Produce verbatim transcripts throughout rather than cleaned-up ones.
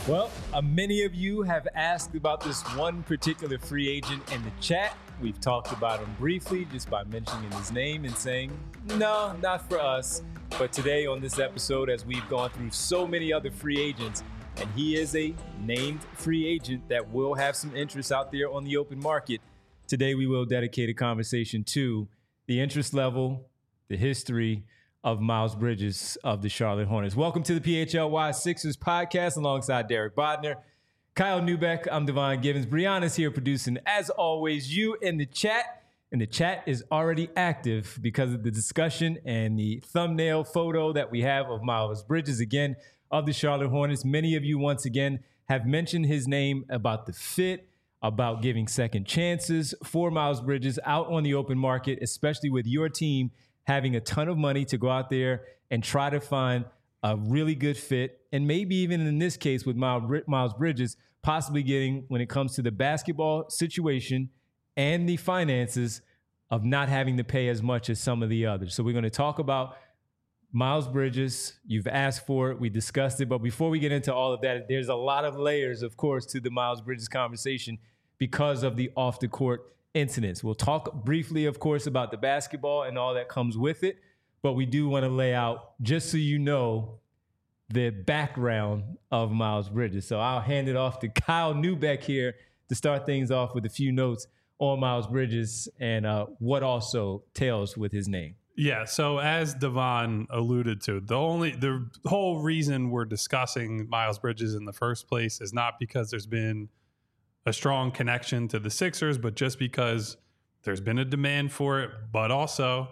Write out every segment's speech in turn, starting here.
Well, uh, many of you have asked about this one particular free agent in the chat. We've talked about him briefly just by mentioning his name and saying, no, not for us. But today on this episode, as we've gone through so many other free agents, and he is a named free agent that will have some interest out there on the open market, today we will dedicate a conversation to the interest level, the history of Miles Bridges of the Charlotte Hornets. Welcome to the P H L Y Sixers podcast alongside Derek Bodner, Kyle Neubeck. I'm Devon Givens. Brianna's here producing, as always, you in the chat. And the chat is already active because of the discussion and the thumbnail photo that we have of Miles Bridges, again, of the Charlotte Hornets. Many of you, once again, have mentioned his name about the fit, about giving second chances for Miles Bridges out on the open market, especially with your team having a ton of money to go out there and try to find a really good fit. And maybe even in this case with Miles Bridges, possibly getting, when it comes to the basketball situation and the finances, of not having to pay as much as some of the others. So we're going to talk about Miles Bridges. You've asked for it. We discussed it. But before we get into all of that, there's a lot of layers, of course, to the Miles Bridges conversation because of the off-the-court incidents. We'll talk briefly, of course, about the basketball and all that comes with it, but we do want to lay out, just so you know, the background of Miles Bridges. So I'll hand it off to Kyle Neubeck here to start things off with a few notes on Miles Bridges and uh, what also tails with his name. Yeah, so as Devon alluded to, the only the whole reason we're discussing Miles Bridges in the first place is not because there's been a strong connection to the Sixers, but just because there's been a demand for it, but also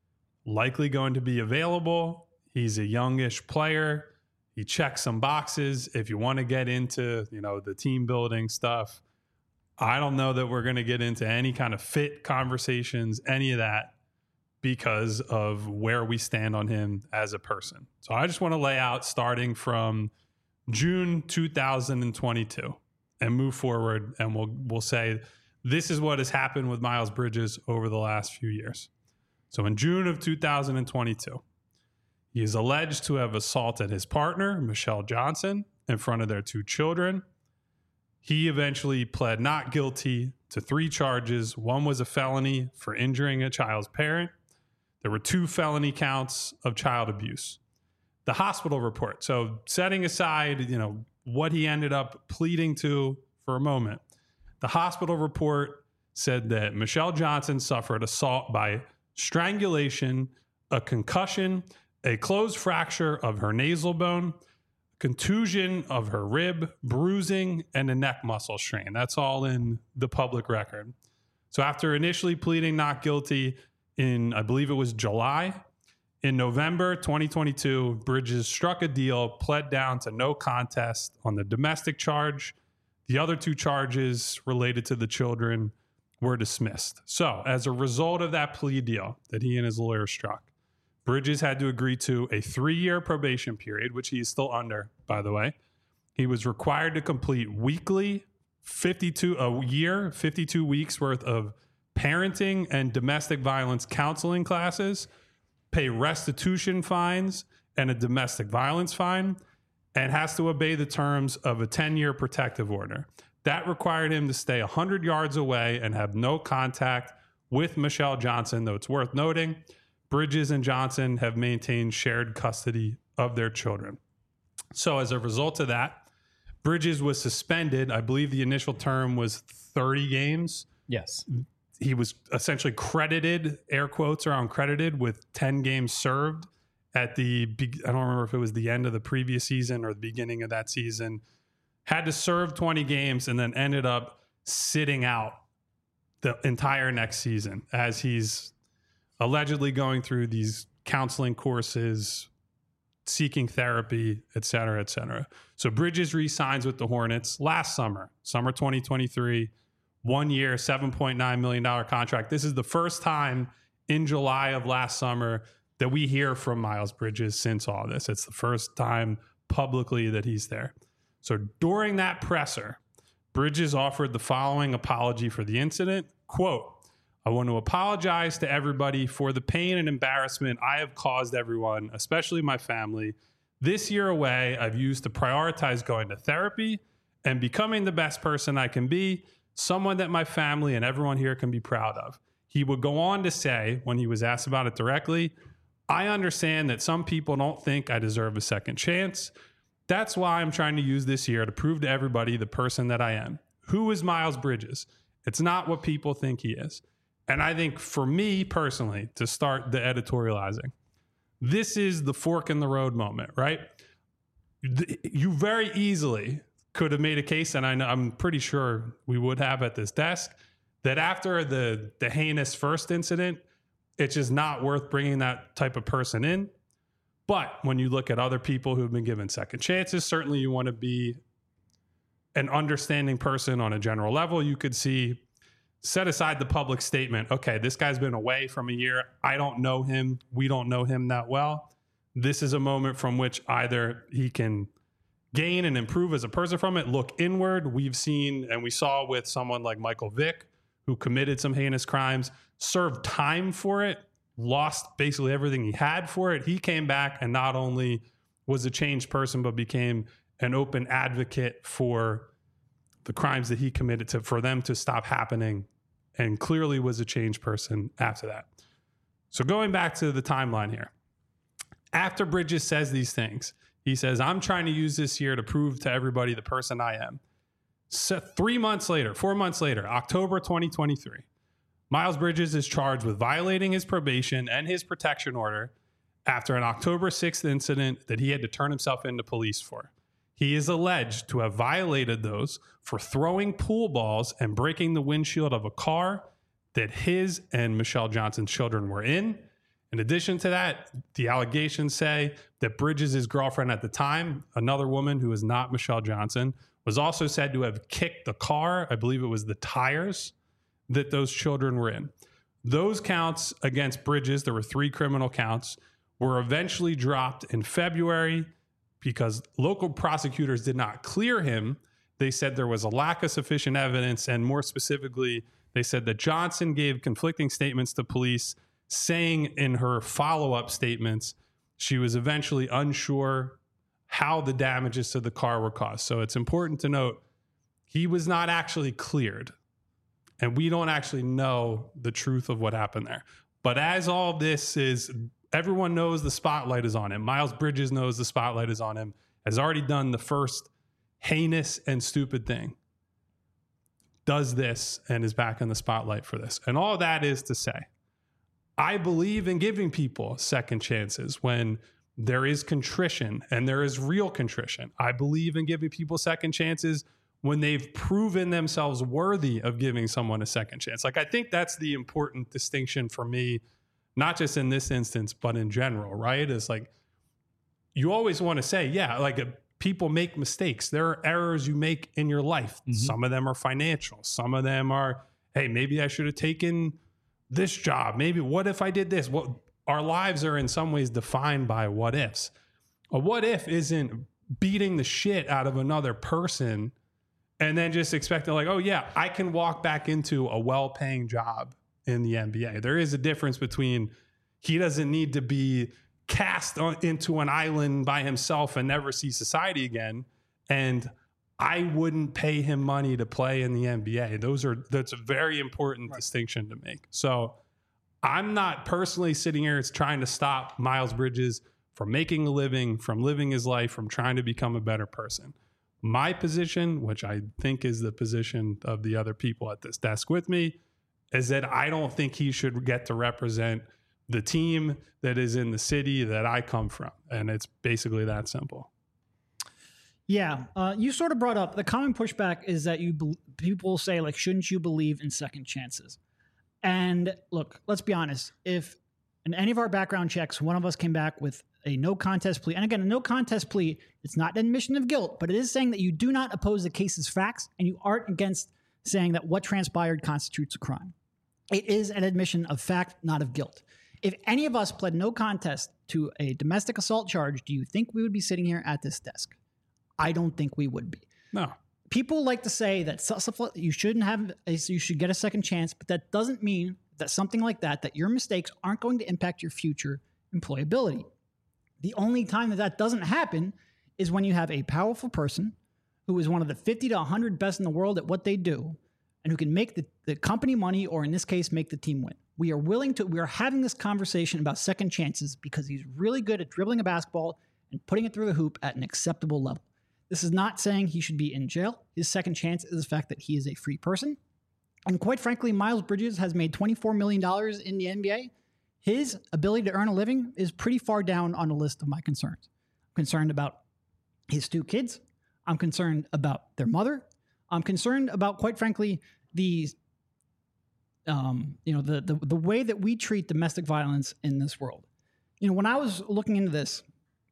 likely going to be available. He's a youngish player. He checks some boxes. If you want to get into, you know, the team building stuff, I don't know that we're going to get into any kind of fit conversations, any of that, because of where we stand on him as a person. So I just want to lay out starting from June two thousand twenty-two. And move forward, and we'll we'll say this is what has happened with Miles Bridges over the last few years. So in June of two thousand twenty-two, he is alleged to have assaulted his partner, Michelle Johnson, in front of their two children. He eventually pled not guilty to three charges. One was a felony for injuring a child's parent. There were two felony counts of child abuse. The hospital report. So setting aside, you know, what he ended up pleading to for a moment, the hospital report said that Michelle Johnson suffered assault by strangulation, a concussion, a closed fracture of her nasal bone, contusion of her rib, bruising, and a neck muscle strain. That's all in the public record. So after initially pleading not guilty in, I believe it was July, in November twenty twenty-two, Bridges struck a deal, pled down to no contest on the domestic charge. The other two charges related to the children were dismissed. So as a result of that plea deal that he and his lawyer struck, Bridges had to agree to a three-year probation period, which he is still under, by the way. He was required to complete weekly fifty-two a year, fifty-two weeks worth of parenting and domestic violence counseling classes, pay restitution fines and a domestic violence fine, and has to obey the terms of a ten-year protective order. That required him to stay one hundred yards away and have no contact with Michelle Johnson, though it's worth noting, Bridges and Johnson have maintained shared custody of their children. So as a result of that, Bridges was suspended. I believe the initial term was thirty games. Yes. He was essentially credited, air quotes around credited, with ten games served at the, I don't remember if it was the end of the previous season or the beginning of that season. Had to serve twenty games and then ended up sitting out the entire next season as he's allegedly going through these counseling courses, seeking therapy, et cetera, et cetera. So Bridges re-signs with the Hornets last summer, summer twenty twenty-three. One year, seven point nine million dollars contract. This is the first time in July of last summer that we hear from Miles Bridges since all this. It's the first time publicly that he's there. So during that presser, Bridges offered the following apology for the incident. Quote, "I want to apologize to everybody for the pain and embarrassment I have caused everyone, especially my family. This year away, I've used to prioritize going to therapy and becoming the best person I can be, someone that my family and everyone here can be proud of. He would go on to say, when he was asked about it directly, I understand that some people don't think I deserve a second chance. That's why I'm trying to use this year to prove to everybody the person that I am. Who is Miles Bridges? It's not what people think he is. And I think for me personally, to start the editorializing, this is the fork in the road moment, right? You very easily could have made a case, and I know, I'm pretty sure we would have at this desk, that after the, the heinous first incident, it's just not worth bringing that type of person in. But when you look at other people who've been given second chances, certainly you want to be an understanding person on a general level. You could see, set aside the public statement, okay, this guy's been away from a year. I don't know him. We don't know him that well. This is a moment from which either he can gain and improve as a person from it, look inward. We've seen, and we saw with someone like Michael Vick, who committed some heinous crimes, served time for it, lost basically everything he had for it. He came back and not only was a changed person, but became an open advocate for the crimes that he committed, to for them to stop happening, and clearly was a changed person after that. So going back to the timeline here, after Bridges says these things, he says, I'm trying to use this year to prove to everybody the person I am. So three months later, four months later, October twenty twenty-three, Miles Bridges is charged with violating his probation and his protection order after an October sixth incident that he had to turn himself into police for. He is alleged to have violated those for throwing pool balls and breaking the windshield of a car that his and Michelle Johnson's children were in. In addition to that, the allegations say that Bridges' girlfriend at the time, another woman who is not Michelle Johnson, was also said to have kicked the car. I believe it was the tires that those children were in. Those counts against Bridges, there were three criminal counts, were eventually dropped in February because local prosecutors did not clear him. They said there was a lack of sufficient evidence, and more specifically, they said that Johnson gave conflicting statements to police, saying in her follow-up statements she was eventually unsure how the damages to the car were caused. So it's important to note he was not actually cleared, and we don't actually know the truth of what happened there. But as all this is, everyone knows the spotlight is on him. Miles Bridges knows the spotlight is on him, has already done the first heinous and stupid thing, does this, and is back in the spotlight for this. And all that is to say, I believe in giving people second chances when there is contrition, and there is real contrition. I believe in giving people second chances when they've proven themselves worthy of giving someone a second chance. Like, I think that's the important distinction for me, not just in this instance, but in general, right? It's like, you always want to say, yeah, like uh, people make mistakes. There are errors you make in your life. Mm-hmm. Some of them are financial. Some of them are, hey, maybe I should have taken this job. Maybe what if I did this? What, our lives are in some ways defined by what ifs. A what if isn't beating the shit out of another person and then just expecting like, oh yeah, I can walk back into a well-paying job in the N B A. There is a difference between he doesn't need to be cast on, into an island by himself and never see society again, and I wouldn't pay him money to play in the N B A. Those are, that's a very important right. distinction to make. So I'm not personally sitting here trying to stop Miles Bridges from making a living, from living his life, from trying to become a better person. My position, which I think is the position of the other people at this desk with me, is that I don't think he should get to represent the team that is in the city that I come from. And it's basically that simple. Yeah. Uh, you sort of brought up the common pushback is that you be- people say, like, shouldn't you believe in second chances? And look, let's be honest. If in any of our background checks, one of us came back with a no contest plea, and again, a no contest plea, it's not an admission of guilt, but it is saying that you do not oppose the case's facts and you aren't against saying that what transpired constitutes a crime. It is an admission of fact, not of guilt. If any of us pled no contest to a domestic assault charge, do you think we would be sitting here at this desk? I don't think we would be. No. People like to say that you shouldn't have, you should get a second chance, but that doesn't mean that something like that, that your mistakes aren't going to impact your future employability. The only time that that doesn't happen is when you have a powerful person who is one of the fifty to one hundred best in the world at what they do and who can make the, the company money, or in this case, make the team win. We are willing to, we are having this conversation about second chances because he's really good at dribbling a basketball and putting it through the hoop at an acceptable level. This is not saying he should be in jail. His second chance is the fact that he is a free person. And quite frankly, Miles Bridges has made twenty-four million dollars in the N B A. His ability to earn a living is pretty far down on the list of my concerns. I'm concerned about his two kids. I'm concerned about their mother. I'm concerned about, quite frankly, the, um, you know, the, the the way that we treat domestic violence in this world. You know, when I was looking into this,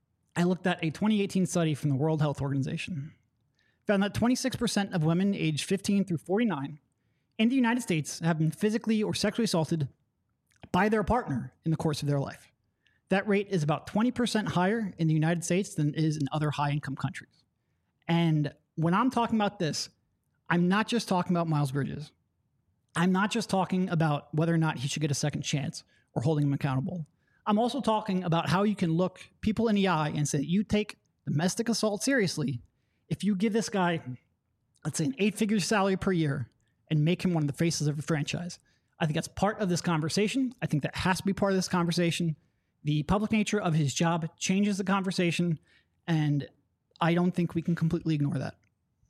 I looked at a twenty eighteen study from the World Health Organization. Found that twenty-six percent of women aged fifteen through forty-nine in the United States have been physically or sexually assaulted by their partner in the course of their life. That rate is about twenty percent higher in the United States than it is in other high-income countries. And when I'm talking about this, I'm not just talking about Miles Bridges. I'm not just talking about whether or not he should get a second chance or holding him accountable. I'm also talking about how you can look people in the eye and say, you take domestic assault seriously if you give this guy, let's say, an eight-figure salary per year and make him one of the faces of a franchise. I think that's part of this conversation. I think that has to be part of this conversation. The public nature of his job changes the conversation, and I don't think we can completely ignore that.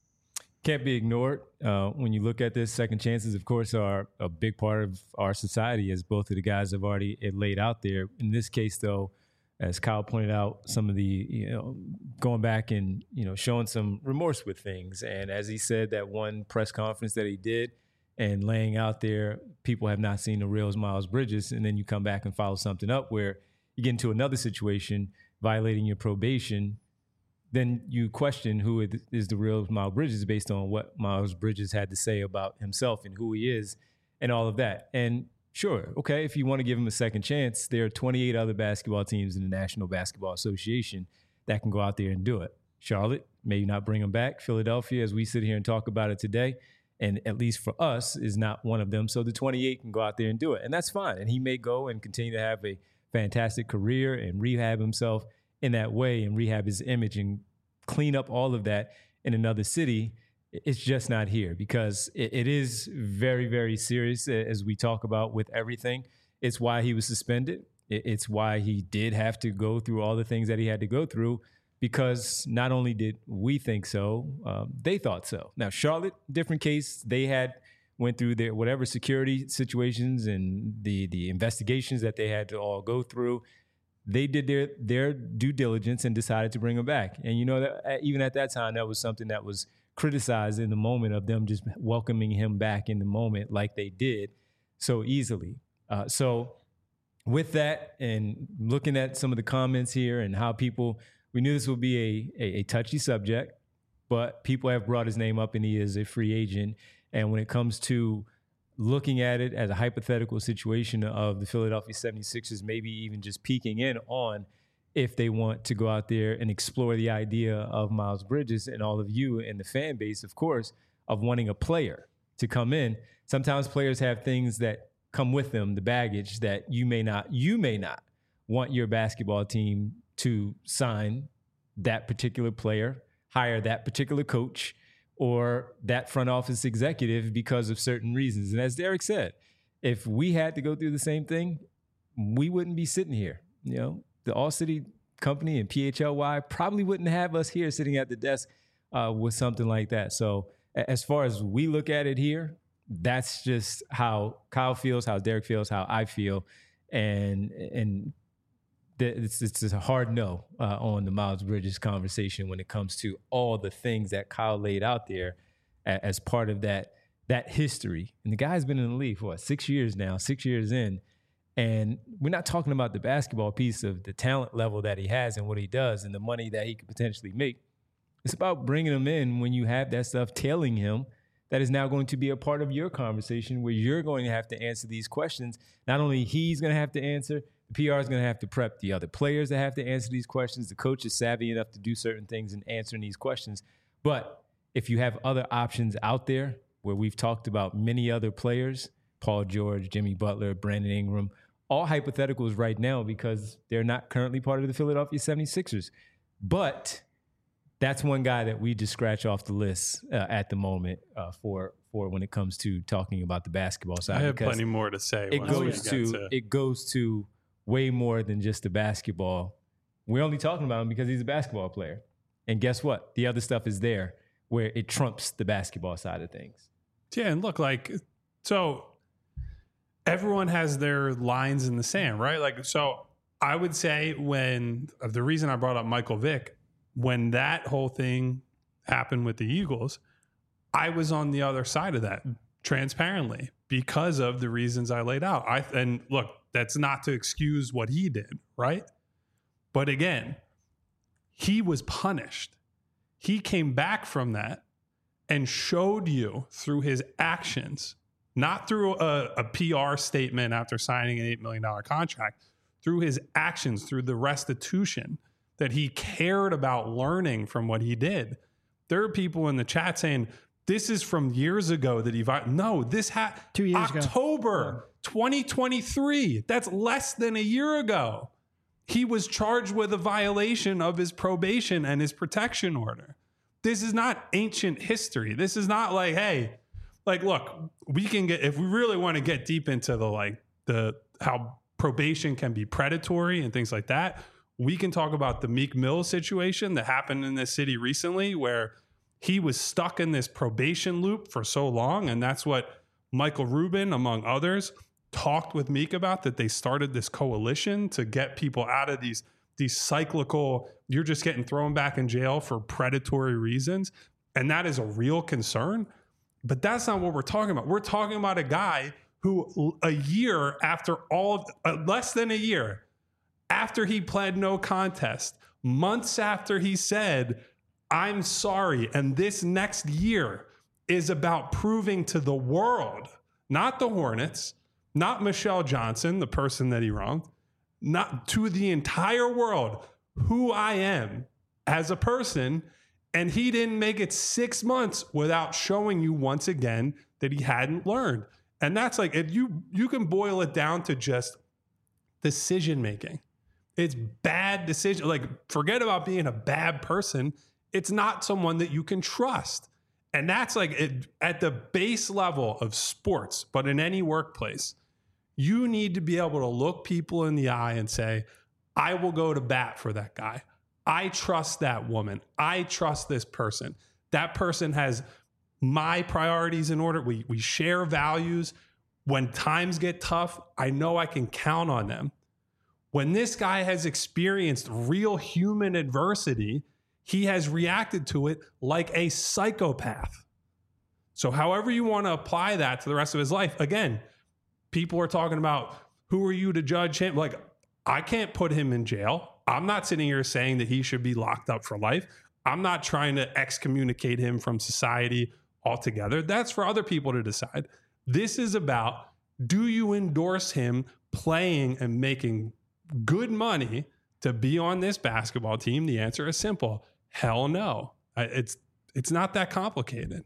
Can't be ignored. Uh, when you look at this, second chances, of course, are a big part of our society, as both of the guys have already laid out there. In this case, though, as Kyle pointed out, some of the, you know, going back and, you know, showing some remorse with things. And as he said, that one press conference that he did and laying out there, people have not seen the real Miles Bridges. And then you come back and follow something up where you get into another situation, violating your probation. Then you question who is the real Miles Bridges based on what Miles Bridges had to say about himself and who he is and all of that. And sure, okay, if you want to give him a second chance, there are twenty-eight other basketball teams in the National Basketball Association that can go out there and do it. Charlotte, maybe not bring him back. Philadelphia, as we sit here and talk about it today, and at least for us, is not one of them. So the twenty-eight can go out there and do it, and that's fine. And he may go and continue to have a fantastic career and rehab himself in that way and rehab his image and clean up all of that in another city. It's just not here because it, it is very, very serious as we talk about with everything. It's why he was suspended. It, it's why he did have to go through all the things that he had to go through, because not only did we think so, um, they thought so. Now, Charlotte, different case. They had went through their whatever security situations and the the investigations that they had to all go through. They did their their due diligence and decided to bring him back. And you know that even at that time, that was something that was criticized in the moment of them just welcoming him back in the moment like they did so easily. Uh, so with that and looking at some of the comments here and how people, we knew this would be a, a, a touchy subject, but people have brought his name up and he is a free agent. And when it comes to looking at it as a hypothetical situation of the Philadelphia seventy-sixers, maybe even just peeking in on if they want to go out there and explore the idea of Miles Bridges, and all of you in the fan base, of course, of wanting a player to come in. Sometimes players have things that come with them, the baggage that you may not, you may not want your basketball team to sign that particular player, hire that particular coach, or that front office executive because of certain reasons. And as Derek said, if we had to go through the same thing, we wouldn't be sitting here. You know, the All City Company and P H L Y probably wouldn't have us here sitting at the desk uh, with something like that. So as far as we look at it here, that's just how Kyle feels, how Derek feels, how I feel. And, and It's, it's a hard no uh, on the Miles Bridges conversation when it comes to all the things that Kyle laid out there a, as part of that that history. And the guy's been in the league for what, six years now, six years in. And we're not talking about the basketball piece of the talent level that he has and what he does and the money that he could potentially make. It's about bringing him in when you have that stuff tailing him that is now going to be a part of your conversation where you're going to have to answer these questions. Not only he's going to have to answer, the P R is going to have to prep the other players that have to answer these questions. The coach is savvy enough to do certain things in answering these questions. But if you have other options out there where we've talked about many other players, Paul George, Jimmy Butler, Brandon Ingram, all hypotheticals right now because they're not currently part of the Philadelphia seventy-sixers. But that's one guy that we just scratch off the list uh, at the moment uh, for for when it comes to talking about the basketball side. I have plenty more to say. It goes to, to it goes to way more than just the basketball. We're only talking about him because he's a basketball player. And guess what? The other stuff is there where it trumps the basketball side of things. Yeah, and look, like, so everyone has their lines in the sand, right? Like, so I would say when, the reason I brought up Michael Vick, when that whole thing happened with the Eagles, I was on the other side of that transparently because of the reasons I laid out. I And look, that's not to excuse what he did, right? But again, he was punished. He came back from that and showed you through his actions, not through a, a P R statement after signing an eight million dollars contract, through his actions, through the restitution, that he cared about learning from what he did. There are people in the chat saying, this is from years ago that he, no, this had two years October ago. twenty twenty-three. That's less than a year ago. He was charged with a violation of his probation and his protection order. This is not ancient history. This is not like, hey, like, look, we can get, if we really want to get deep into the, like, the, how probation can be predatory and things like that, we can talk about the Meek Mill situation that happened in this city recently where he was stuck in this probation loop for so long. And that's what Michael Rubin, among others, talked with Meek about, that they started this coalition to get people out of these these cyclical, you're just getting thrown back in jail for predatory reasons. And that is a real concern. But that's not what we're talking about. We're talking about a guy who a year after all of, uh, less than a year after he pled no contest, months after he said, I'm sorry, and this next year is about proving to the world, not the Hornets, not Michelle Johnson, the person that he wronged, not to the entire world, who I am as a person. And he didn't make it six months without showing you once again that he hadn't learned. And that's like, if you, you can boil it down to just decision making. It's bad decision. Like, forget about being a bad person. It's not someone that you can trust. And that's like it, at the base level of sports, but in any workplace, you need to be able to look people in the eye and say, I will go to bat for that guy. I trust that woman. I trust this person. That person has my priorities in order. We, we share values. When times get tough, I know I can count on them. When this guy has experienced real human adversity, he has reacted to it like a psychopath. So however you want to apply that to the rest of his life, again, people are talking about, who are you to judge him? Like, I can't put him in jail. I'm not sitting here saying that he should be locked up for life. I'm not trying to excommunicate him from society altogether. That's for other people to decide. This is about, do you endorse him playing and making good money to be on this basketball team? The answer is simple. Hell no. It's it's not that complicated.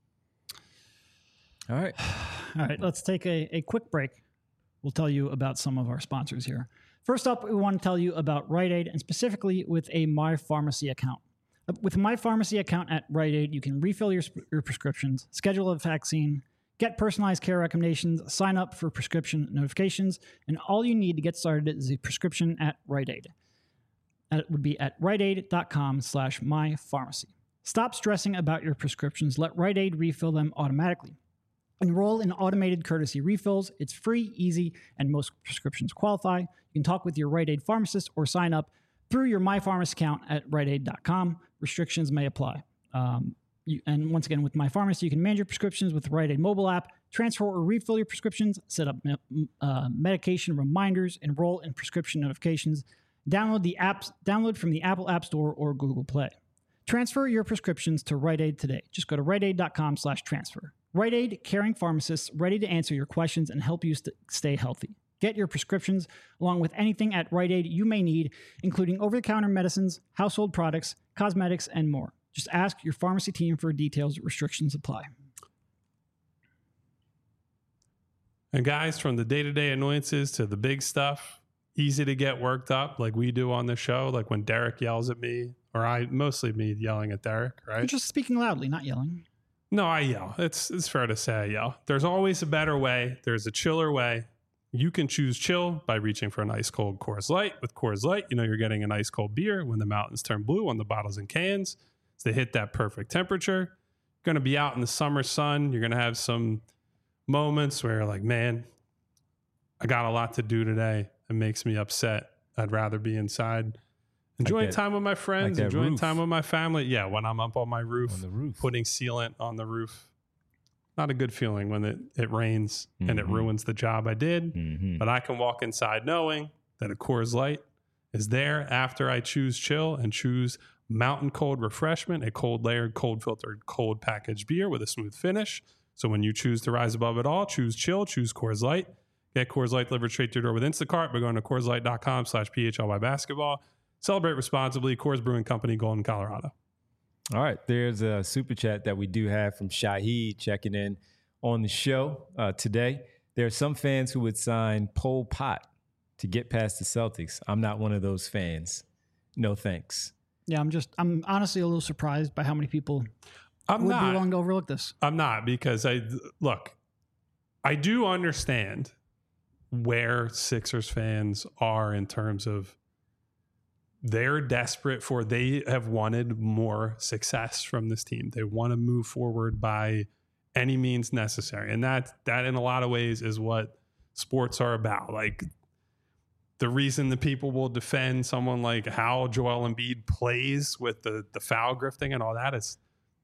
All right. All right, let's take a, a quick break. We'll tell you about some of our sponsors here. First up, we want to tell you about Rite Aid, and specifically with a MyPharmacy account. With a MyPharmacy account at Rite Aid, you can refill your, your prescriptions, schedule a vaccine, get personalized care recommendations, sign up for prescription notifications, and all you need to get started is a prescription at Rite Aid. That would be at riteaid.com slash mypharmacy. Stop stressing about your prescriptions. Let Rite Aid refill them automatically. Enroll in automated courtesy refills. It's free, easy, and most prescriptions qualify. You can talk with your Rite Aid pharmacist or sign up through your MyPharmacy account at rite aid dot com. Restrictions may apply. Um, you, and once again, with MyPharmacy, you can manage your prescriptions with the Rite Aid mobile app, transfer or refill your prescriptions, set up me- uh, medication reminders, enroll in prescription notifications, download the apps, download from the Apple App Store or Google Play. Transfer your prescriptions to Rite Aid today. Just go to riteaid.com slash transfer. Rite Aid, caring pharmacists ready to answer your questions and help you st- stay healthy. Get your prescriptions along with anything at Rite Aid you may need, including over-the-counter medicines, household products, cosmetics, and more. Just ask your pharmacy team for details. Restrictions apply. And guys, from the day-to-day annoyances to the big stuff, easy to get worked up like we do on the show. Like when Derek yells at me, or I, mostly me yelling at Derek, right? You're just speaking loudly, not yelling. No, I yell. It's it's fair to say I yell. There's always a better way. There's a chiller way. You can choose chill by reaching for an ice cold Coors Light. With Coors Light, you know you're getting an ice cold beer when the mountains turn blue on the bottles and cans. So they hit that perfect temperature. You're going to be out in the summer sun. You're going to have some moments where you're like, man, I got a lot to do today. It makes me upset. I'd rather be inside. Enjoying that- time with my friends, like that enjoying roof. time with my family. Yeah, when I'm up on my roof, On the roof. putting sealant on the roof. Not a good feeling when it, it rains and it Mhm. ruins the job I did. Mhm. But I can walk inside knowing that a Coors Light is there after I choose chill and choose mountain cold refreshment, a cold layered, cold filtered, cold packaged beer with a smooth finish. So when you choose to rise above it all, choose chill, choose Coors Light. Get Coors Light delivered straight to your door with Instacart by going to CoorsLight.com slash PHLY basketball. Celebrate responsibly. Coors Brewing Company, Golden, Colorado. All right, there's a super chat that we do have from Shahid checking in on the show uh, today. There are some fans who would sign Pol Pot to get past the Celtics. I'm not one of those fans. No thanks. Yeah, I'm just, I'm honestly a little surprised by how many people I'm would not. be willing to overlook this. I'm not because I look, I do understand where Sixers fans are in terms of they're desperate for, they have wanted more success from this team. They want to move forward by any means necessary. And that, that in a lot of ways is what sports are about. Like the reason the people will defend someone like how Joel Embiid plays with the, the foul grifting and all that is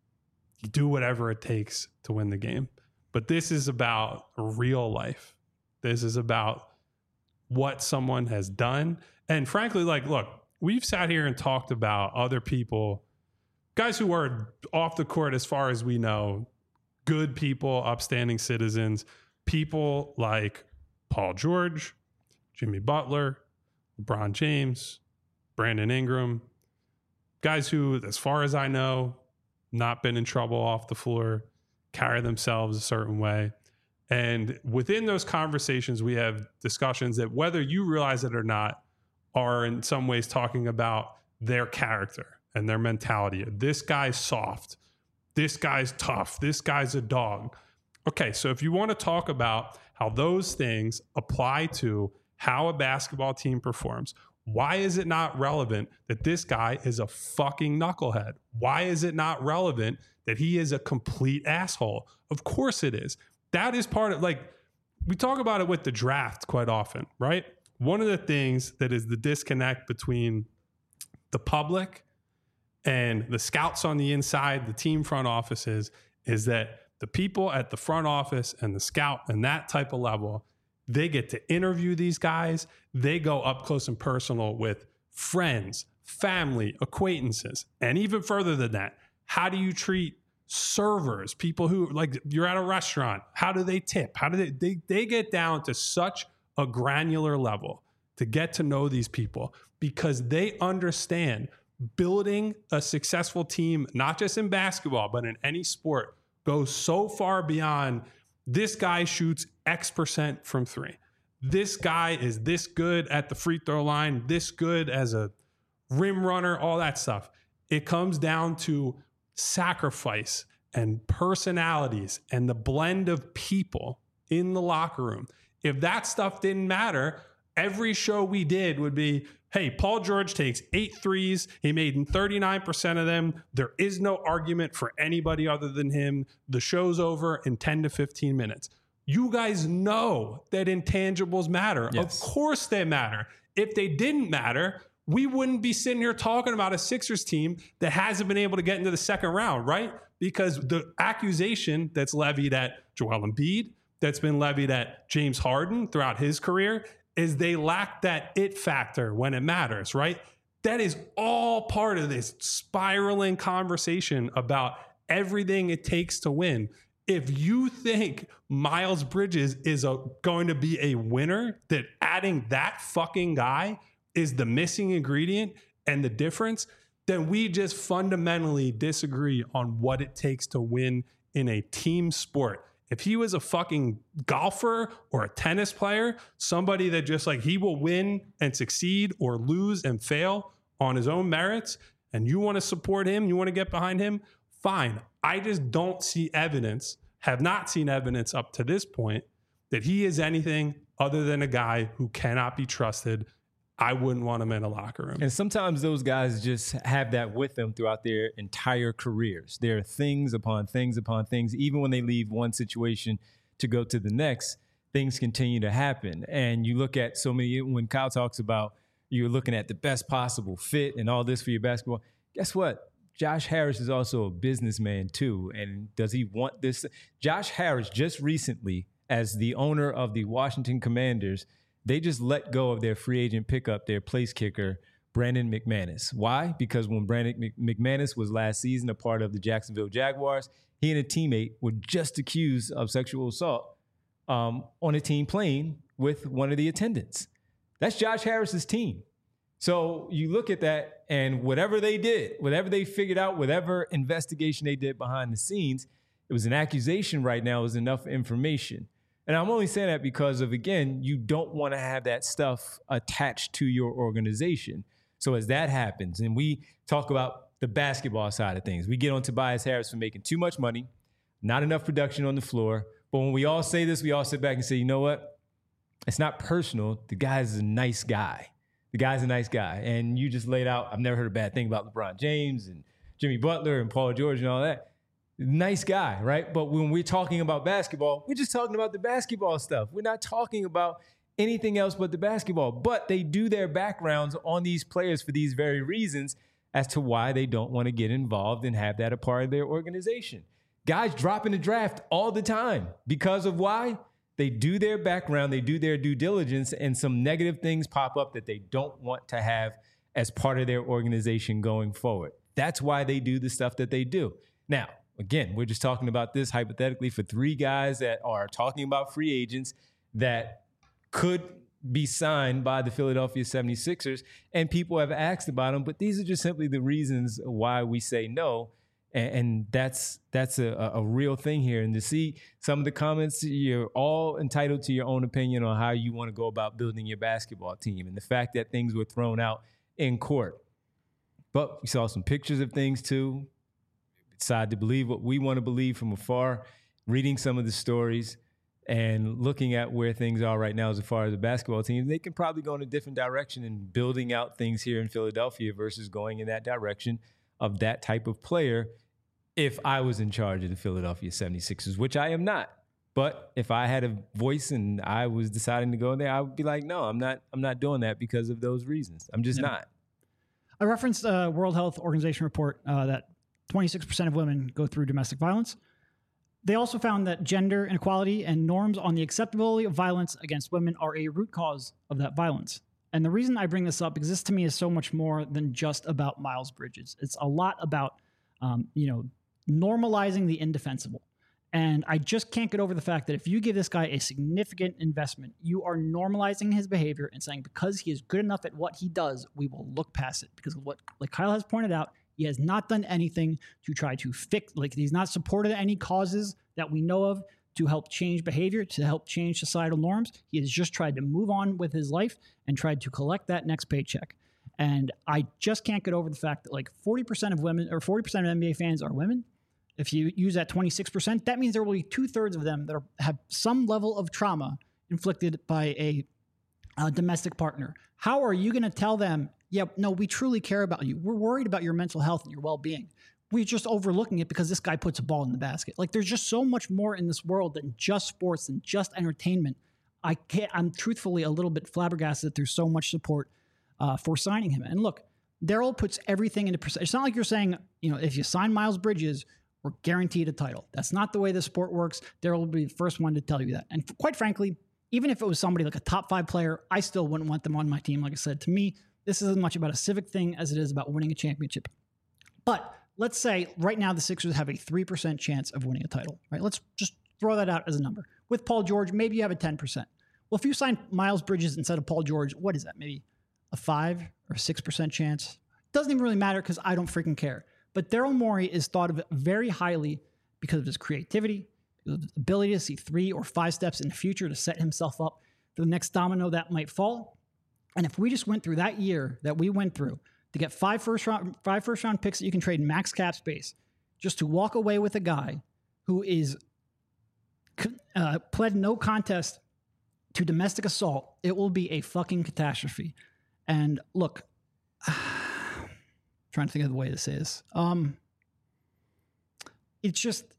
do whatever it takes to win the game. But this is about real life. This is about what someone has done. And frankly, like, look, we've sat here and talked about other people, guys who are off the court as far as we know, good people, upstanding citizens, people like Paul George, Jimmy Butler, LeBron James, Brandon Ingram, guys who, as far as I know, not been in trouble off the floor, carry themselves a certain way. And within those conversations, we have discussions that, whether you realize it or not, are in some ways talking about their character and their mentality. This guy's soft. This guy's tough. This guy's a dog. Okay, so if you want to talk about how those things apply to how a basketball team performs, why is it not relevant that this guy is a fucking knucklehead? Why is it not relevant that he is a complete asshole? Of course it is. That is part of, like, we talk about it with the draft quite often, right? One of the things that is the disconnect between the public and the scouts on the inside, the team front offices, is that the people at the front office and the scout and that type of level, they get to interview these guys. They go up close and personal with friends, family, acquaintances, and even further than that, how do you treat servers, people who, like, you're at a restaurant, how do they tip? How do they, they, they get down to such a granular level to get to know these people because they understand building a successful team, not just in basketball, but in any sport, goes so far beyond this guy shoots X percent from three. This guy is this good at the free throw line, this good as a rim runner, all that stuff. It comes down to sacrifice and personalities and the blend of people in the locker room. If that stuff didn't matter, every show we did would be, hey, Paul George takes eight threes. He made thirty-nine percent of them. There is no argument for anybody other than him. The show's over in ten to fifteen minutes. You guys know that intangibles matter. Yes. Of course they matter. If they didn't matter, we wouldn't be sitting here talking about a Sixers team that hasn't been able to get into the second round, right? Because the accusation that's levied at Joel Embiid, that's been levied at James Harden throughout his career, is they lack that it factor when it matters, right? That is all part of this spiraling conversation about everything it takes to win. If you think Miles Bridges is a, going to be a winner, that adding that fucking guy is the missing ingredient and the difference, then we just fundamentally disagree on what it takes to win in a team sport. If he was a fucking golfer or a tennis player, somebody that just like he will win and succeed or lose and fail on his own merits, and you want to support him, you want to get behind him, fine. I just don't see evidence, have not seen evidence up to this point that he is anything other than a guy who cannot be trusted. I wouldn't want him in a locker room. And sometimes those guys just have that with them throughout their entire careers. There are things upon things upon things. Even when they leave one situation to go to the next, things continue to happen. And you look at so many, when Kyle talks about you're looking at the best possible fit and all this for your basketball, guess what? Josh Harris is also a businessman too. And does he want this? Josh Harris just recently, as the owner of the Washington Commanders, they just let go of their free agent pickup, their place kicker, Brandon McManus. Why? Because when Brandon McManus was last season a part of the Jacksonville Jaguars, he and a teammate were just accused of sexual assault um, on a team plane with one of the attendants. That's Josh Harris's team. So you look at that, and whatever they did, whatever they figured out, whatever investigation they did behind the scenes, it was an accusation right now, is enough information. And I'm only saying that because of, again, you don't want to have that stuff attached to your organization. So as that happens, and we talk about the basketball side of things, we get on Tobias Harris for making too much money, not enough production on the floor. But when we all say this, we all sit back and say, you know what? It's not personal. The guy's a nice guy. The guy's a nice guy. And you just laid out, I've never heard a bad thing about LeBron James and Jimmy Butler and Paul George and all that. Nice guy, right? But when we're talking about basketball, we're just talking about the basketball stuff. We're not talking about anything else but the basketball. But they do their backgrounds on these players for these very reasons as to why they don't want to get involved and have that a part of their organization. Guys drop in the draft all the time because of why? They do their background, they do their due diligence, and some negative things pop up that they don't want to have as part of their organization going forward. That's why they do the stuff that they do. Now, again, we're just talking about this hypothetically for three guys that are talking about free agents that could be signed by the Philadelphia seventy-sixers, and people have asked about them, but these are just simply the reasons why we say no, and, and that's that's a, a real thing here. And to see some of the comments, you're all entitled to your own opinion on how you want to go about building your basketball team, and the fact that things were thrown out in court. But we saw some pictures of things too. Decide to believe what we want to believe from afar, reading some of the stories and looking at where things are right now as far as the basketball team. They can probably go in a different direction in building out things here in Philadelphia versus going in that direction of that type of player if I was in charge of the Philadelphia seventy-sixers, which I am not. But if I had a voice and I was deciding to go there, I would be like, no, I'm not I'm not doing that because of those reasons. I'm just yeah. not. I referenced a World Health Organization report uh, that twenty-six percent of women go through domestic violence. They also found that gender inequality and norms on the acceptability of violence against women are a root cause of that violence. And the reason I bring this up is this to me is so much more than just about Miles Bridges. It's a lot about, um, you know, normalizing the indefensible. And I just can't get over the fact that if you give this guy a significant investment, you are normalizing his behavior and saying because he is good enough at what he does, we will look past it. Because what, like Kyle has pointed out, he has not done anything to try to fix, like he's not supported any causes that we know of to help change behavior, to help change societal norms. He has just tried to move on with his life and tried to collect that next paycheck. And I just can't get over the fact that like forty percent of women or forty percent of N B A fans are women. If you use that twenty-six percent, that means there will be two thirds of them that are, have some level of trauma inflicted by a, a domestic partner. How are you going to tell them, yeah, no, we truly care about you. We're worried about your mental health and your well-being. We're just overlooking it because this guy puts a ball in the basket. Like there's just so much more in this world than just sports and just entertainment. I can't, I'm truthfully a little bit flabbergasted that there's so much support uh, for signing him. And look, Daryl puts everything into percent. It's not like you're saying, you know, if you sign Miles Bridges, we're guaranteed a title. That's not the way the sport works. Daryl will be the first one to tell you that. And quite frankly, even if it was somebody like a top five player, I still wouldn't want them on my team. Like I said, to me, this is as much about a civic thing as it is about winning a championship. But let's say right now the Sixers have a three percent chance of winning a title, right? Let's just throw that out as a number. With Paul George, maybe you have a ten percent. Well, if you sign Miles Bridges instead of Paul George, what is that? Maybe a five or six percent chance? Doesn't even really matter because I don't freaking care. But Daryl Morey is thought of very highly because of his creativity, the ability to see three or five steps in the future to set himself up for the next domino that might fall. And if we just went through that year that we went through to get five first round, five first round picks that you can trade max cap space, just to walk away with a guy who is uh, pled no contest to domestic assault, it will be a fucking catastrophe. And look, trying to think of the way this is. Um, it's just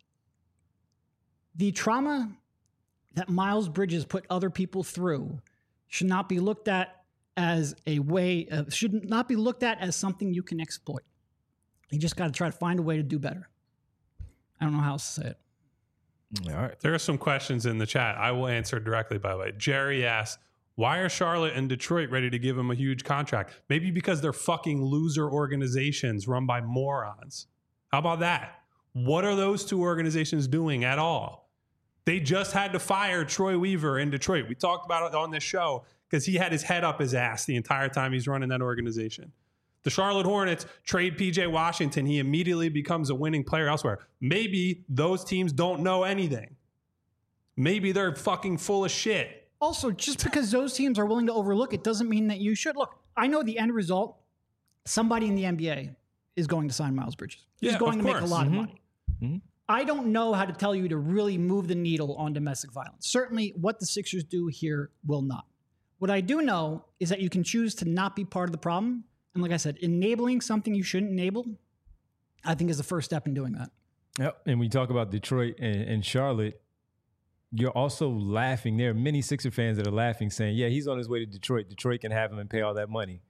the trauma that Miles Bridges put other people through should not be looked at as a way, uh, should not be looked at as something you can exploit. You just got to try to find a way to do better. I don't know how else to say it. All right. There are some questions in the chat. I will answer directly, by the way. Jerry asks, why are Charlotte and Detroit ready to give him a huge contract? Maybe because they're fucking loser organizations run by morons. How about that? What are those two organizations doing at all? They just had to fire Troy Weaver in Detroit. We talked about it on this show because he had his head up his ass the entire time he's running that organization. The Charlotte Hornets trade P J Washington. He immediately becomes a winning player elsewhere. Maybe those teams don't know anything. Maybe they're fucking full of shit. Also, just because those teams are willing to overlook it doesn't mean that you should. Look, I know the end result, somebody in the N B A is going to sign Miles Bridges. He's Yeah, going to of make a course. lot Mhm. of money. Mm-hmm. I don't know how to tell you to really move the needle on domestic violence. Certainly what the Sixers do here will not. What I do know is that you can choose to not be part of the problem. And like I said, enabling something you shouldn't enable, I think is the first step in doing that. Yep. And when you talk about Detroit and, and Charlotte, you're also laughing. There are many Sixer fans that are laughing, saying, yeah, he's on his way to Detroit. Detroit can have him and pay all that money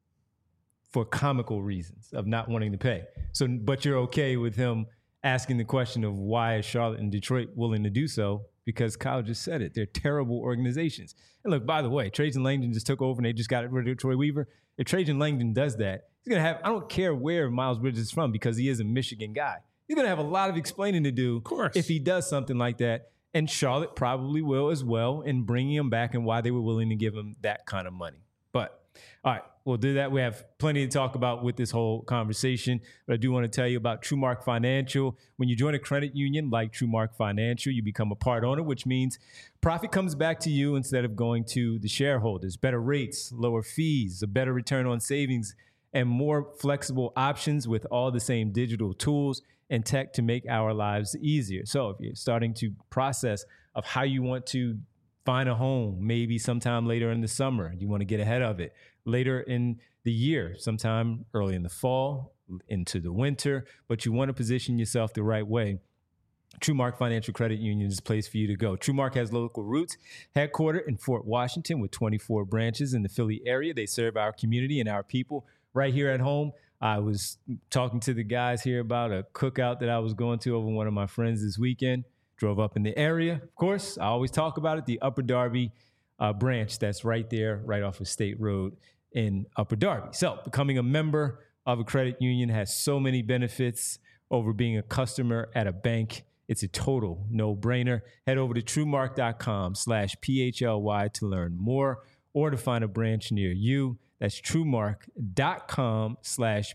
for comical reasons of not wanting to pay. So, but you're okay with him asking the question of why is Charlotte and Detroit willing to do so? Because Kyle just said it. They're terrible organizations. And look, by the way, Trajan Langdon just took over and they just got rid of Troy Weaver. If Trajan Langdon does that, he's going to have, I don't care where Miles Bridges is from because he is a Michigan guy. He's going to have a lot of explaining to do Of course. if he does something like that. And Charlotte probably will as well in bringing him back and why they were willing to give him that kind of money. But all right, we'll do that. We have plenty to talk about with this whole conversation. But I do want to tell you about TrueMark Financial. When you join a credit union like TrueMark Financial, you become a part owner, which means profit comes back to you instead of going to the shareholders. Better rates, lower fees, a better return on savings, and more flexible options with all the same digital tools and tech to make our lives easier. So if you're starting to process of how you want to find a home, maybe sometime later in the summer, you want to get ahead of it. Later in the year, sometime early in the fall, into the winter, but you want to position yourself the right way. TrueMark Financial Credit Union is the place for you to go. TrueMark has local roots, headquartered in Fort Washington with twenty-four branches in the Philly area. They serve our community and our people right here at home. I was talking to the guys here about a cookout that I was going to over one of my friends this weekend. Drove up in the area. Of course, I always talk about it, the Upper Darby uh, branch that's right there, right off of State Road in Upper Darby. So becoming a member of a credit union has so many benefits over being a customer at a bank. It's a total no-brainer. Head over to TrueMark.com slash PHLY to learn more or to find a branch near you. That's TrueMark.com slash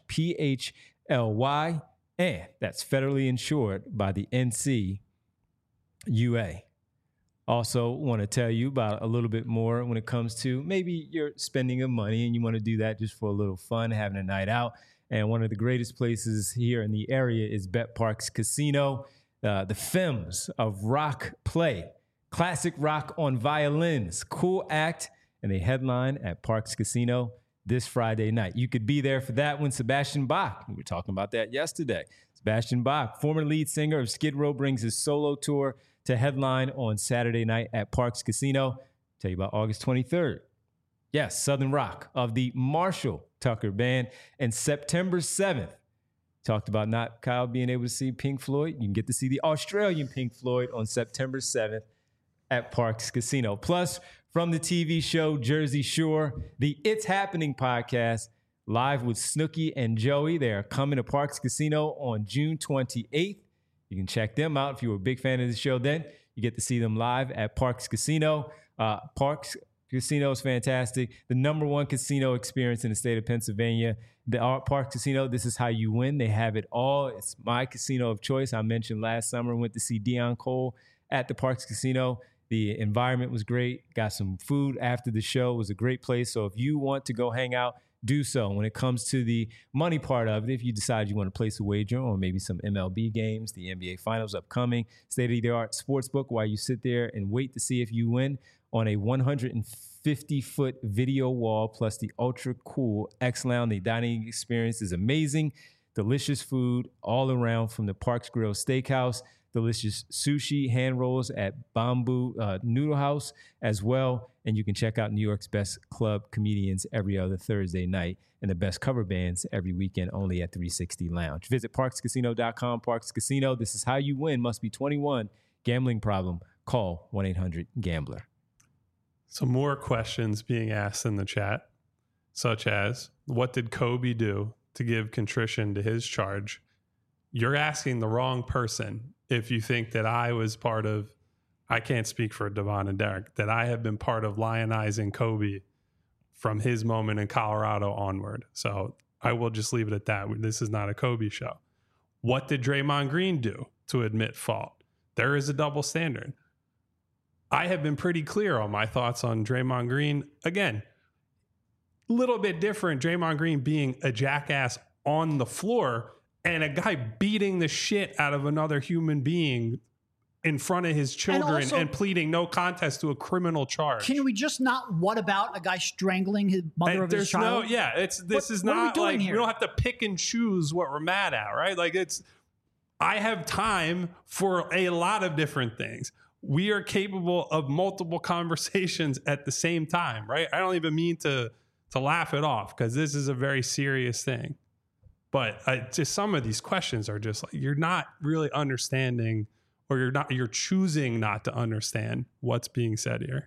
PHLY. And that's federally insured by the N C U A. Also want to tell you about a little bit more when it comes to maybe you're spending your money and you want to do that just for a little fun, having a night out. And one of the greatest places here in the area is Bet Parks Casino. Uh, the Femmes of Rock play classic rock on violins, cool act, and they headline at Parks Casino this Friday night. You could be there for that one. Sebastian Bach, we were talking about that yesterday. Sebastian Bach, former lead singer of Skid Row, brings his solo tour to headline on Saturday night at Parks Casino. Tell you about August twenty-third. Yes, Southern Rock of the Marshall Tucker Band. And September seventh, talked about not Kyle being able to see Pink Floyd. You can get to see the Australian Pink Floyd on September seventh at Parks Casino. Plus, from the T V show Jersey Shore, the It's Happening podcast, live with Snooki and Joey. They are coming to Parks Casino on June twenty-eighth. You can check them out if you were a big fan of the show then. You get to see them live at Parks Casino. Uh, Parks, Casino is fantastic. The number one casino experience in the state of Pennsylvania. The Art Park Casino, this is how you win. They have it all. It's my casino of choice. I mentioned last summer, went to see Deion Cole at the Parks Casino. The environment was great. Got some food after the show. It was a great place. So if you want to go hang out, do so. When it comes to the money part of it, if you decide you want to place a wager on maybe some M L B games, the N B A Finals upcoming, state-of-the-art sportsbook while you sit there and wait to see if you win on a one hundred fifty foot video wall plus the ultra cool X Lounge. The dining experience is amazing. Delicious food all around from the Parks Grill Steakhouse. Delicious sushi, hand rolls at Bamboo uh, Noodle House as well. And you can check out New York's best club comedians every other Thursday night and the best cover bands every weekend only at three sixty Lounge. Visit parks casino dot com. Parks Casino, this is how you win. Must be twenty-one. Gambling problem? Call one eight hundred gambler. Some more questions being asked in the chat, such as, what did Kobe do to give contrition to his charge? You're asking the wrong person if you think that I was part of, I can't speak for Devon and Derek, that I have been part of lionizing Kobe from his moment in Colorado onward. So I will just leave it at that. This is not a Kobe show. What did Draymond Green do to admit fault? There is a double standard. I have been pretty clear on my thoughts on Draymond Green. Again, a little bit different. Draymond Green being a jackass on the floor and a guy beating the shit out of another human being in front of his children and, also, and pleading no contest to a criminal charge. Can we just not, what about a guy strangling his mother I, of his child? No, yeah, it's this what, is what not we like, here? we don't have to pick and choose what we're mad at, right? Like it's, I have time for a lot of different things. We are capable of multiple conversations at the same time, right? I don't even mean to to laugh it off because this is a very serious thing. But I, just some of these questions are just like, you're not really understanding, or you're not, you're choosing not to understand what's being said here.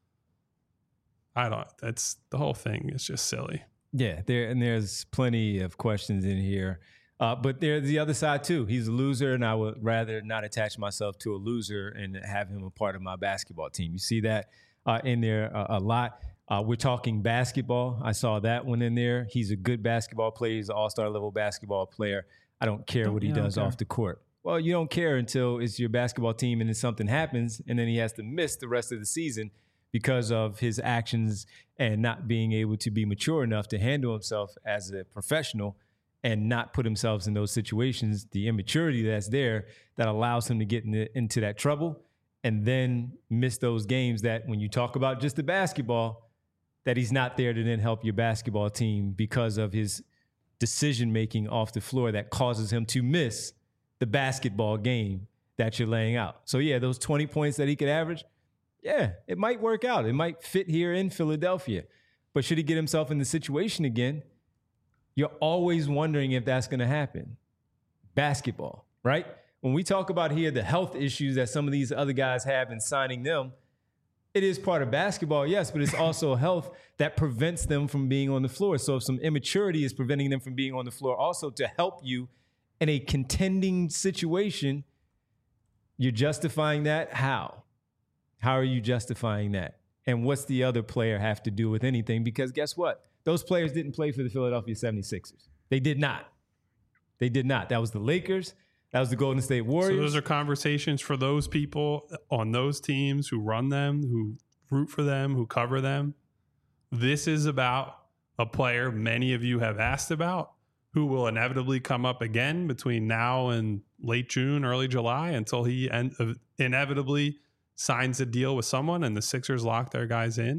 I don't, that's the whole thing is just silly. Yeah, there and there's plenty of questions in here. Uh, but there's the other side too. He's a loser, and I would rather not attach myself to a loser and have him a part of my basketball team. You see that uh, in there a, a lot. Uh, we're talking basketball. I saw that one in there. He's a good basketball player. He's an all-star level basketball player. I don't care don't, what he yeah, does off the court. Well, you don't care until it's your basketball team and then something happens, and then he has to miss the rest of the season because of his actions and not being able to be mature enough to handle himself as a professional and not put himself in those situations, the immaturity that's there that allows him to get in the, into that trouble and then miss those games that when you talk about just the basketball, that he's not there to then help your basketball team because of his decision-making off the floor that causes him to miss the basketball game that you're laying out. So, yeah, those twenty points that he could average, yeah, it might work out. It might fit here in Philadelphia. But should he get himself in the situation again, you're always wondering if that's going to happen. Basketball, right? When we talk about here the health issues that some of these other guys have in signing them, it is part of basketball, yes, but it's also health that prevents them from being on the floor. So if some immaturity is preventing them from being on the floor also to help you in a contending situation, you're justifying that? How? How are you justifying that? And what's the other player have to do with anything? Because guess what? Those players didn't play for the Philadelphia seventy-sixers. They did not. They did not. That was the Lakers. That was the Golden State Warriors. So those are conversations for those people on those teams who run them, who root for them, who cover them. This is about a player many of you have asked about who will inevitably come up again between now and late June, early July until he en- inevitably signs a deal with someone and the Sixers lock their guys in.